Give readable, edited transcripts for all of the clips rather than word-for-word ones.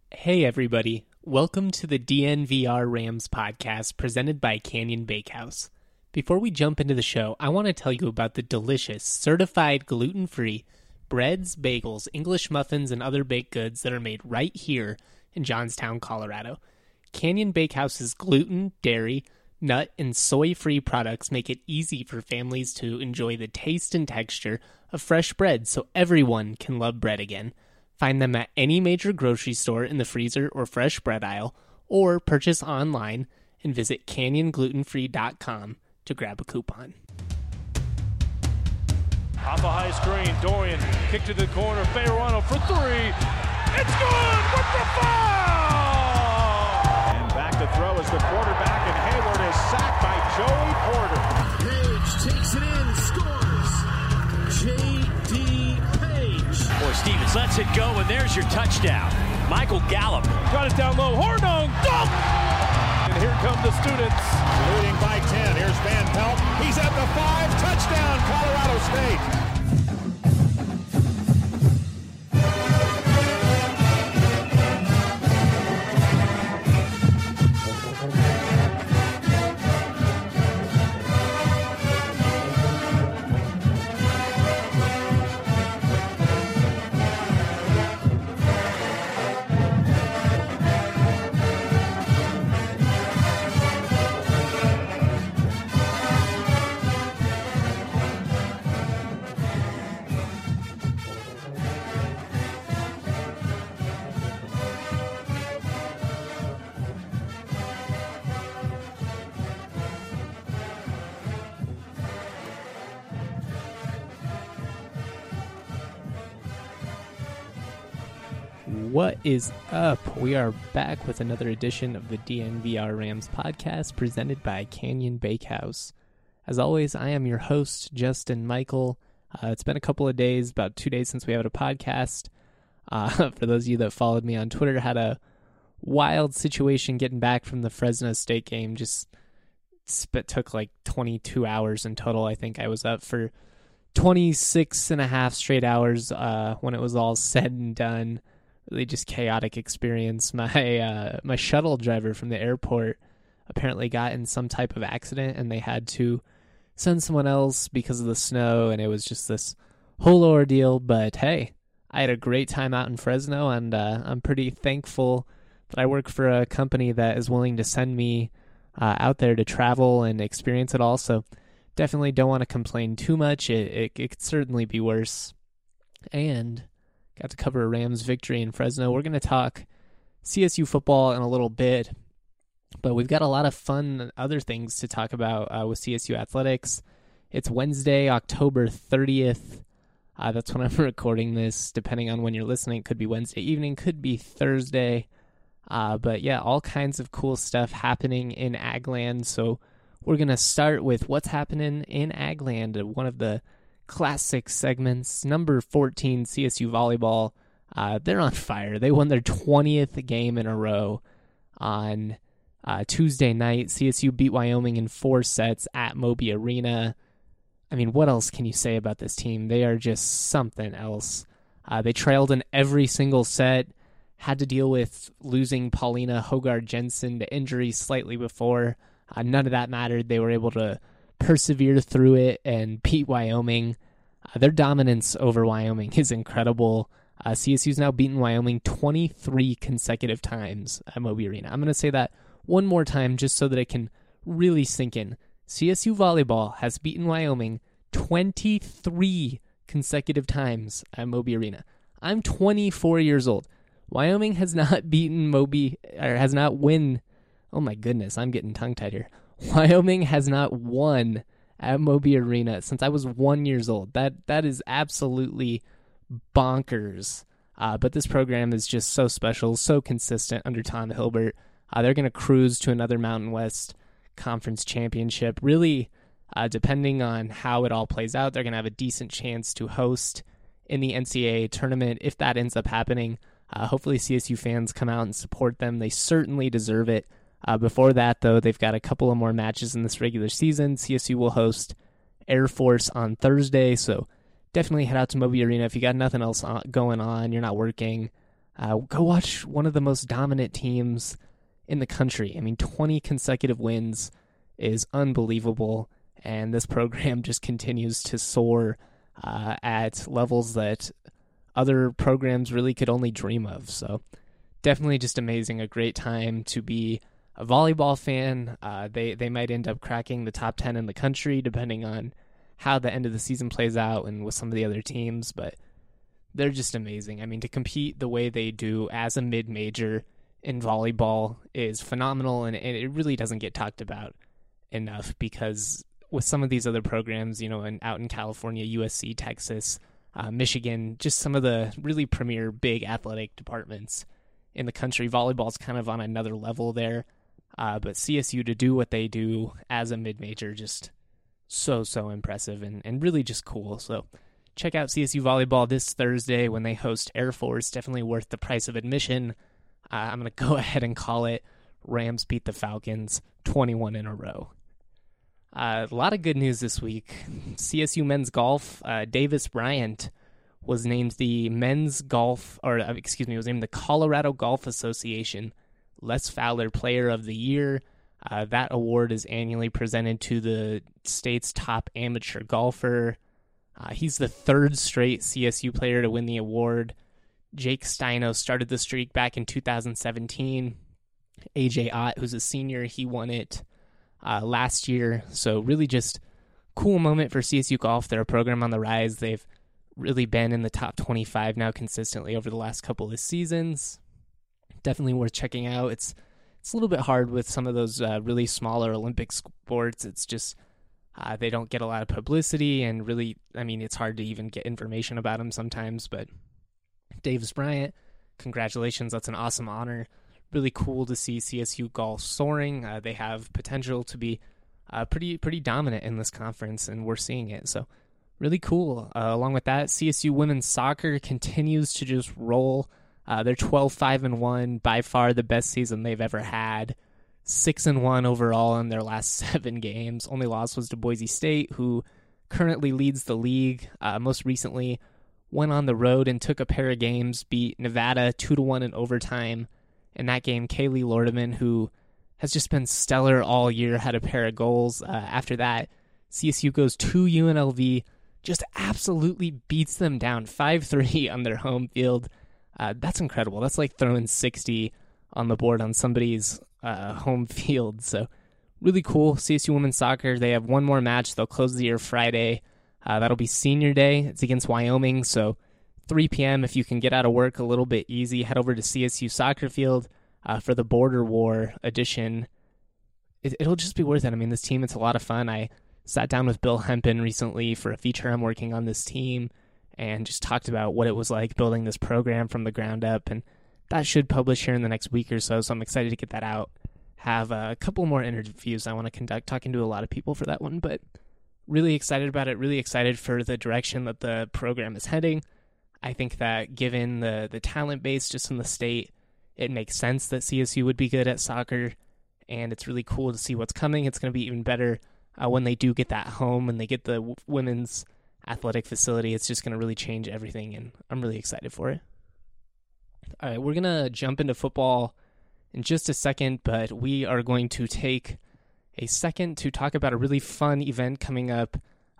Hey everybody, welcome to the DNVR Rams podcast presented by Canyon Bakehouse. Before we jump into the show, I want to tell you about the delicious, certified gluten-free breads, bagels, English muffins, and other baked goods that are made right here in Johnstown, Colorado. Canyon Bakehouse's gluten, dairy, nut, and soy-free products make it easy for families to enjoy the taste and texture of fresh bread so everyone can love bread again. Find them at any major grocery store in the freezer or fresh bread aisle, or purchase online and visit canyonglutenfree.com to grab a coupon. Off a high screen, Dorian, kick to the corner, Fayerano for three. It's good with the foul! And back to throw as the quarterback, and Hayward is sacked by Joey Porter. Page takes it in, scores. J.D. Or Stevens lets it go, and there's your touchdown. Michael Gallup. Got it down low. Hornung. Dunk! And here come the students. Leading by 10. Here's Van Pelt. He's at the 5. Touchdown, Colorado State. What is up? We are back with another edition of the DNVR Rams podcast presented by Canyon Bakehouse. As always, I am your host, Justin Michael. It's been a couple of days, about 2 days since we had a podcast. For those of you that followed me on Twitter, had a wild situation getting back from the Fresno State game. Took like 22 hours in total. I think I was up for 26 and a half straight hours when it was all said and done. Really just chaotic experience. My shuttle driver from the airport apparently got in some type of accident, and they had to send someone else because of the snow, and it was just this whole ordeal. But hey, I had a great time out in Fresno, and I'm pretty thankful that I work for a company that is willing to send me out there to travel and experience it all. So definitely don't want to complain too much. It could certainly be worse. And got to cover a Rams victory in Fresno. We're going to talk CSU football in a little bit, but we've got a lot of fun other things to talk about with CSU athletics. It's Wednesday, October 30th. That's when I'm recording this. Depending on when you're listening, it could be Wednesday evening, could be Thursday. But yeah, all kinds of cool stuff happening in Agland. So we're going to start with what's happening in Agland, one of the classic segments. Number 14, CSU volleyball. They're on fire. They won their 20th game in a row on Tuesday night. CSU beat Wyoming in 4 sets at Moby Arena. I mean, what else can you say about this team? They are just something else. They trailed in every single set, had to deal with losing Paulina Hogard-Jensen to injury slightly before. None of that mattered. They were able to persevere through it and beat Wyoming. Their dominance over Wyoming is incredible. CSU's now beaten Wyoming 23 consecutive times at Moby Arena. I'm going to say that one more time just so that it can really sink in. CSU volleyball has beaten Wyoming 23 consecutive times at Moby Arena. I'm 24 years old. Wyoming has not beaten Moby, or has not win. Oh my goodness, I'm getting tongue-tied here. Wyoming has not won at Moby Arena since I was 1 year old. That is absolutely bonkers. But this program is just so special, so consistent under Tom Hilbert. They're going to cruise to another Mountain West Conference championship. Really, depending on how it all plays out, they're going to have a decent chance to host in the NCAA tournament if that ends up happening. Hopefully CSU fans come out and support them. They certainly deserve it. Before that, though, they've got a couple of more matches in this regular season. CSU will host Air Force on Thursday, so definitely head out to Moby Arena if you got nothing else going on, you're not working. Go watch one of the most dominant teams in the country. I mean, 20 consecutive wins is unbelievable, and this program just continues to soar at levels that other programs really could only dream of. So definitely just amazing, a great time to be a volleyball fan. They might end up cracking the top 10 in the country, depending on how the end of the season plays out and with some of the other teams, but they're just amazing. I mean, to compete the way they do as a mid-major in volleyball is phenomenal, and it really doesn't get talked about enough, because with some of these other programs, out in California, USC, Texas, Michigan, just some of the really premier big athletic departments in the country, volleyball's kind of on another level there. But CSU, to do what they do as a mid-major, just so impressive and really just cool. So check out CSU Volleyball this Thursday when they host Air Force. Definitely worth the price of admission. I'm going to go ahead and call it Rams beat the Falcons 21 in a row. A lot of good news this week. CSU men's golf, Davis Bryant was named the was named the Colorado Golf Association Les Fowler Player of the Year. That award is annually presented to the state's top amateur golfer. He's the third straight CSU player to win the award. Jake Steino started the streak back in 2017. AJ Ott, who's a senior, he won it last year. So really just cool moment for CSU golf. They're a program on the rise. They've really been in the top 25 now consistently over the last couple of seasons. Definitely worth checking out. It's a little bit hard with some of those really smaller Olympic sports. It's just they don't get a lot of publicity, and really, I mean, it's hard to even get information about them sometimes. But Davis Bryant, congratulations. That's an awesome honor. Really cool to see CSU golf soaring. They have potential to be pretty dominant in this conference, and we're seeing it. So really cool. Along with that, CSU women's soccer continues to just roll. They're 12-5-1, by far the best season they've ever had. 6-1 overall in their last 7 games. Only loss was to Boise State, who currently leads the league. Most recently went on the road and took a pair of games, beat Nevada 2-1 in overtime. In that game, Kaylee Lordeman, who has just been stellar all year, had a pair of goals. After that, CSU goes to UNLV, just absolutely beats them down 5-3 on their home field. That's incredible. That's like throwing 60 on the board on somebody's home field. So really cool. CSU women's soccer, they have one more match. They'll close the year Friday. That'll be senior day. It's against Wyoming. So 3 p.m. if you can get out of work a little bit easy, head over to CSU Soccer Field for the Border War edition. It'll just be worth it. I mean, this team, it's a lot of fun. I sat down with Bill Hempen recently for a feature I'm working on this team and just talked about what it was like building this program from the ground up, and that should publish here in the next week or so I'm excited to get that out. Have a couple more interviews I want to conduct, talking to a lot of people for that one, but really excited about it, really excited for the direction that the program is heading. I think that given the talent base just in the state, it makes sense that CSU would be good at soccer, and it's really cool to see what's coming. It's going to be even better when they do get that home and they get the women's athletic facility. It's just going to really change everything, and I'm really excited for it. All right, we're going to jump into football in just a second, but we are going to take a second to talk about a really fun event coming up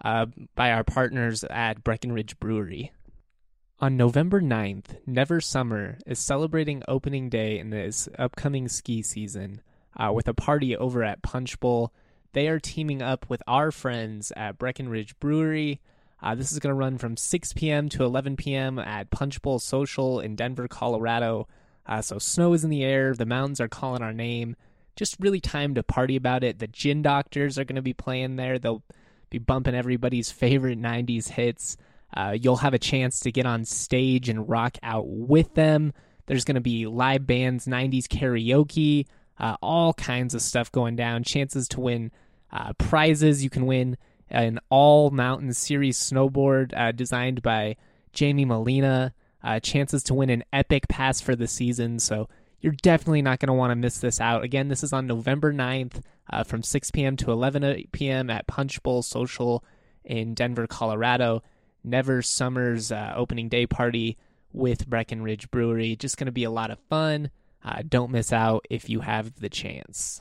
by our partners at Breckenridge Brewery. On November 9th, Never Summer is celebrating opening day in this upcoming ski season with a party over at Punch Bowl. They are teaming up with our friends at Breckenridge Brewery. This is going to run from 6 p.m. to 11 p.m. at Punch Bowl Social in Denver, Colorado. So snow is in the air. The mountains are calling our name. Just really time to party about it. The Gin Doctors are going to be playing there. They'll be bumping everybody's favorite 90s hits. You'll have a chance to get on stage and rock out with them. There's going to be live bands, 90s karaoke, all kinds of stuff going down. Chances to win prizes. You can win an all-mountain series snowboard designed by Jamie Molina. Chances to win an epic pass for the season. So you're definitely not going to want to miss this out. Again, this is on November 9th from 6 p.m. to 11 p.m. at Punch Bowl Social in Denver, Colorado. Never Summer's opening day party with Breckenridge Brewery. Just going to be a lot of fun. Don't miss out if you have the chance.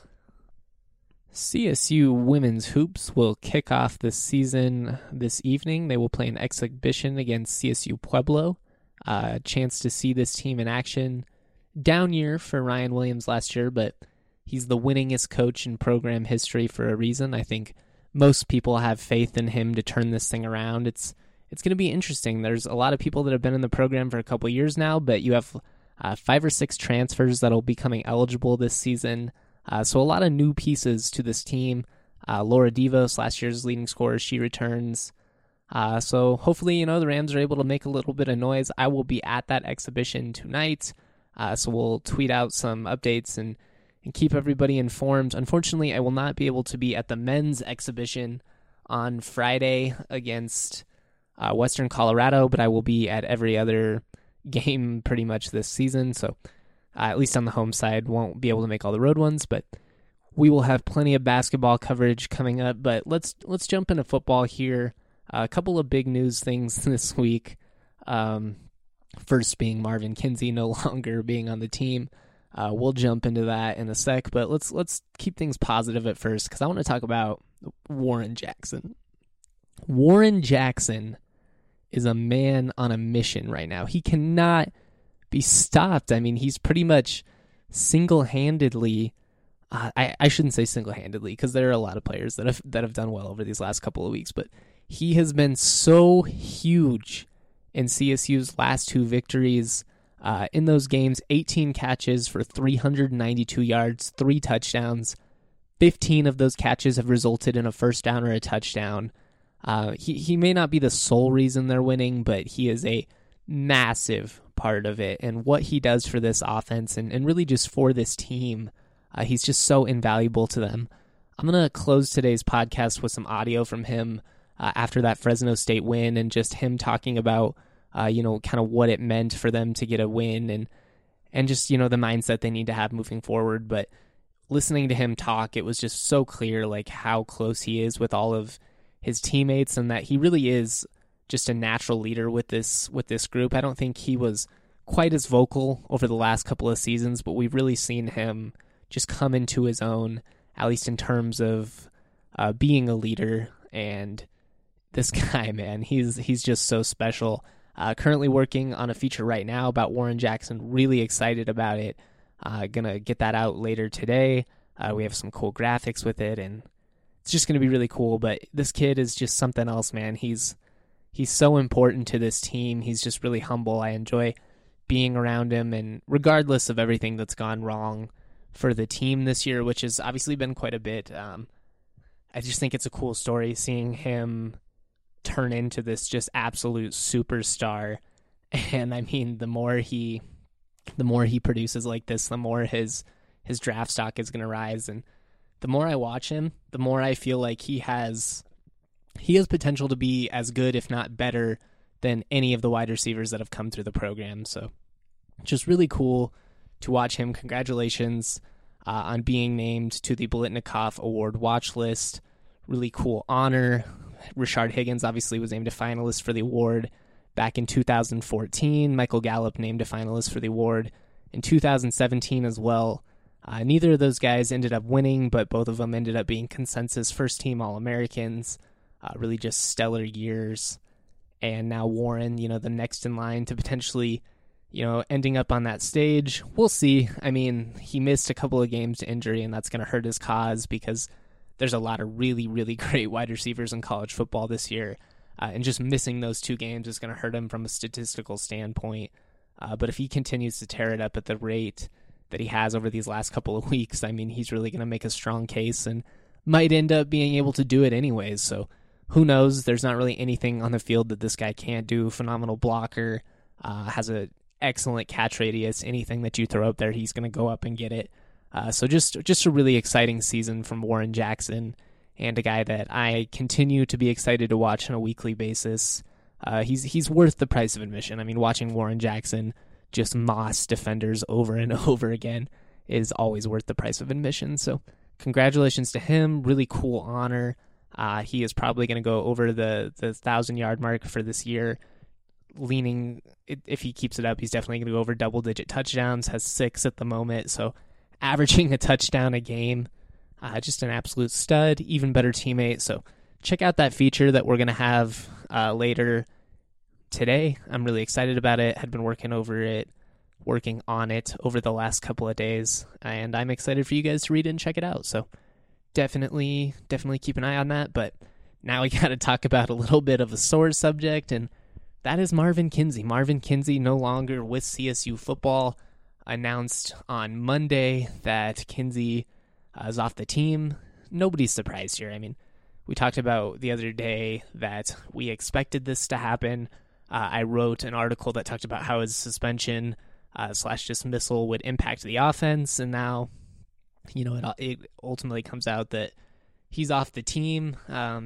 CSU women's hoops will kick off this season this evening. They will play an exhibition against CSU Pueblo. A chance to see this team in action. Down year for Ryan Williams last year, but he's the winningest coach in program history for a reason. I think most people have faith in him to turn this thing around. It's going to be interesting. There's a lot of people that have been in the program for a couple years now, but you have 5 or 6 transfers that will be coming eligible this season. So a lot of new pieces to this team. Laura Devos, last year's leading scorer, she returns. So hopefully, the Rams are able to make a little bit of noise. I will be at that exhibition tonight. So we'll tweet out some updates and keep everybody informed. Unfortunately, I will not be able to be at the men's exhibition on Friday against Western Colorado, but I will be at every other game pretty much this season. So at least on the home side, won't be able to make all the road ones, but we will have plenty of basketball coverage coming up. But let's jump into football here. A couple of big news things this week. First being Marvin Kinsey no longer being on the team. We'll jump into that in a sec, but let's keep things positive at first because I want to talk about Warren Jackson. Warren Jackson is a man on a mission right now. He cannot be stopped. I mean, he's pretty much single-handedly. I shouldn't say single-handedly because there are a lot of players that have done well over these last couple of weeks, but he has been so huge in CSU's last 2 victories. In those games, 18 catches for 392 yards, 3 touchdowns. 15 of those catches have resulted in a first down or a touchdown. He may not be the sole reason they're winning, but he is a massive part of it. And what he does for this offense and really just for this team, he's just so invaluable to them. I'm going to close today's podcast with some audio from him after that Fresno State win and just him talking about kind of what it meant for them to get a win and just, the mindset they need to have moving forward. But listening to him talk, it was just so clear, like, how close he is with all of his teammates and that he really is just a natural leader with this group. I don't think he was quite as vocal over the last couple of seasons, but we've really seen him just come into his own, at least in terms of being a leader. And this guy, man, he's just so special. Currently working on a feature right now about Warren Jackson. Really excited about it. Gonna get that out later today. We have some cool graphics with it, and it's just gonna be really cool. But this kid is just something else, man. He's so important to this team. He's just really humble. I enjoy being around him, and regardless of everything that's gone wrong for the team this year, which has obviously been quite a bit, I just think it's a cool story seeing him turn into this just absolute superstar. And I mean, the more he produces like this, the more his draft stock is going to rise. And the more I watch him, the more I feel like he has potential to be as good, if not better, than any of the wide receivers that have come through the program. So just really cool to watch him. Congratulations on being named to the Biletnikoff Award watch list. Really cool honor. Rashard Higgins obviously was named a finalist for the award back in 2014. Michael Gallup named a finalist for the award in 2017 as well. Neither of those guys ended up winning, but both of them ended up being consensus first-team All-Americans. Really just stellar years. And now Warren, the next in line to potentially, ending up on that stage. We'll see. I mean, he missed a couple of games to injury, and that's going to hurt his cause because there's a lot of really, really great wide receivers in college football this year. And just missing those 2 games is going to hurt him from a statistical standpoint. But if he continues to tear it up at the rate that he has over these last couple of weeks, I mean, he's really going to make a strong case and might end up being able to do it anyways. So who knows? There's not really anything on the field that this guy can't do. Phenomenal blocker, has an excellent catch radius. Anything that you throw up there, he's going to go up and get it. So just a really exciting season from Warren Jackson, and a guy that I continue to be excited to watch on a weekly basis. He's worth the price of admission. I mean, watching Warren Jackson just moss defenders over and over again is always worth the price of admission. So congratulations to him. Really cool honor. He is probably going to go over the 1,000-yard mark for this year. leaning, if he keeps it up, he's definitely going to go over double-digit touchdowns, has 6 at the moment, so averaging a touchdown a game. Just an absolute stud, even better teammate. So check out that feature that we're going to have later today. I'm really excited about it. Had been working on it over the last couple of days, and I'm excited for you guys to read it and check it out. So definitely keep an eye on that. But now we got to talk about a little bit of a sore subject, and that is Marvin Kinsey. Marvin Kinsey no longer with CSU football. Announced on Monday that Kinsey is off the team. Nobody's surprised here. I mean, we talked about the other day that we expected this to happen. I wrote an article that talked about how his suspension / dismissal would impact the offense, and now, it ultimately comes out that he's off the team.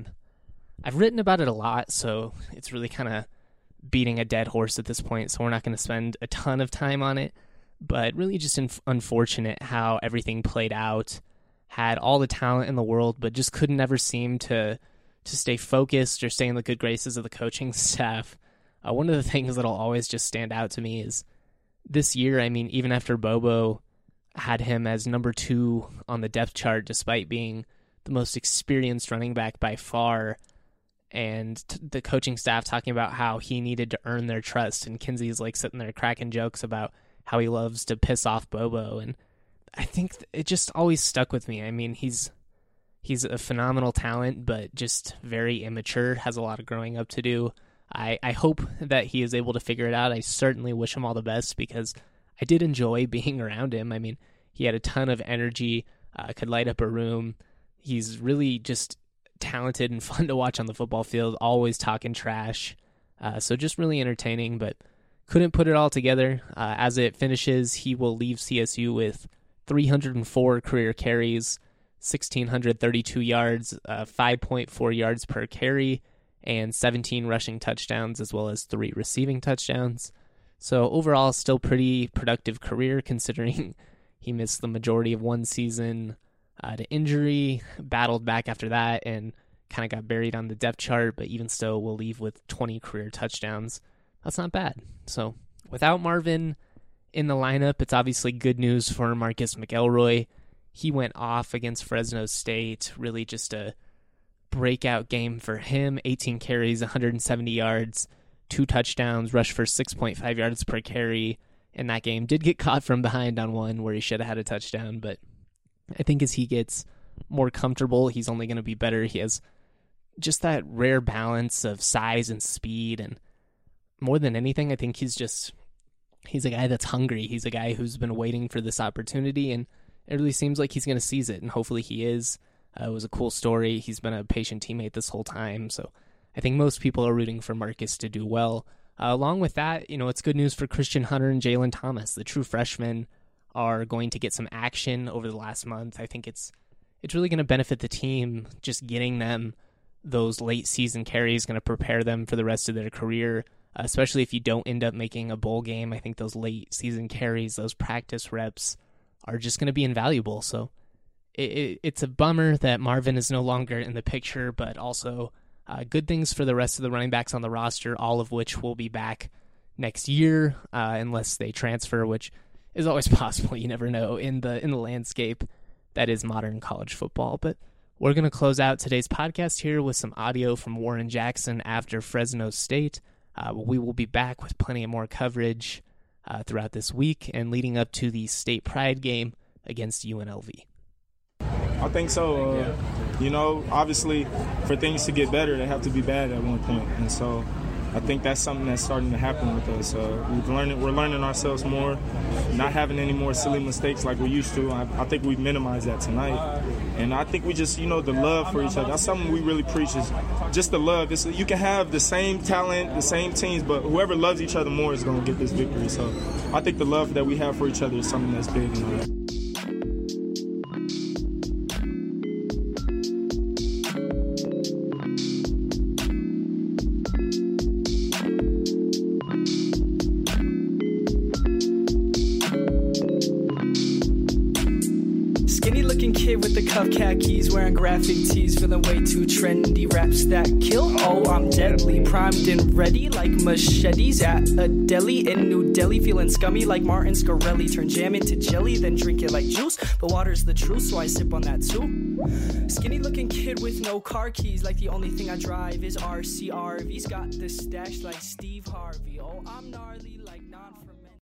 I've written about it a lot, so it's really kind of beating a dead horse at this point, so we're not going to spend a ton of time on it. But really just unfortunate how everything played out. Had all the talent in the world, but just couldn't ever seem to stay focused or stay in the good graces of the coaching staff. One of the things that'll always just stand out to me is this year, I mean, even after Bobo had him as number 2 on the depth chart, despite being the most experienced running back by far, and the coaching staff talking about how he needed to earn their trust, and Kinsey's like sitting there cracking jokes about how he loves to piss off Bobo, and I think it just always stuck with me. I mean, he's a phenomenal talent, but just very immature, has a lot of growing up to do. I hope that he is able to figure it out. I certainly wish him all the best because I did enjoy being around him. I mean, he had a ton of energy, could light up a room. He's really just talented and fun to watch on the football field, always talking trash. So just really entertaining, but couldn't put it all together. As it finishes, he will leave CSU with 304 career carries, 1,632 yards, 5.4 yards per carry, and 17 rushing touchdowns, as well as 3 receiving touchdowns. So overall, still pretty productive career, considering he missed the majority of one season to injury, battled back after that, and kind of got buried on the depth chart, but even still will leave with 20 career touchdowns. That's not bad. So without Marvin in the lineup, it's obviously good news for Marcus McElroy. He went off against Fresno State, really just a breakout game for him. 18 carries, 170 yards, 2 touchdowns, rushed for 6.5 yards per carry in that game. Did get caught from behind on one where he should have had a touchdown, but I think as he gets more comfortable, he's only going to be better. He has just that rare balance of size and speed, and more than anything, I think he's a guy that's hungry. He's a guy who's been waiting for this opportunity, and it really seems like he's going to seize it, and hopefully he is. It was a cool story. He's been a patient teammate this whole time, so I think most people are rooting for Marcus to do well. Along with that, it's good news for Christian Hunter and Jalen Thomas. The true freshmen are going to get some action over the last month. I think it's really going to benefit the team. Just getting them those late season carries going to prepare them for the rest of their career, especially if you don't end up making a bowl game. I think those late season carries, those practice reps are just going to be invaluable. So it's a bummer that Marvin is no longer in the picture, but also good things for the rest of the running backs on the roster, all of which will be back next year, unless they transfer, which is always possible. You never know in the landscape that is modern college football. But we're going to close out today's podcast here with some audio from Warren Jackson after Fresno State. We will be back with plenty of more coverage throughout this week and leading up to the state pride game against UNLV. I think so. Obviously, for things to get better, they have to be bad at one point. And so I think that's something that's starting to happen with us. We're learning ourselves more, not having any more silly mistakes like we used to. I think we've minimized that tonight. And I think we just, the love for each other. That's something we really preach, is just the love. You can have the same talent, the same teams, but whoever loves each other more is going to get this victory. So I think the love that we have for each other is something that's big in our life. Skinny looking kid with the cuff khakis, wearing graphic tees, feeling way too trendy. Raps that kill, oh I'm deadly, primed and ready like machetes at a deli in New Delhi. Feeling scummy like Martin Scarelli, turn jam into jelly, then drink it like juice. But water's the truth, so I sip on that too. Skinny looking kid with no car keys, like the only thing I drive is RCRV's. Got the stash like Steve Harvey. Oh I'm gnarly like non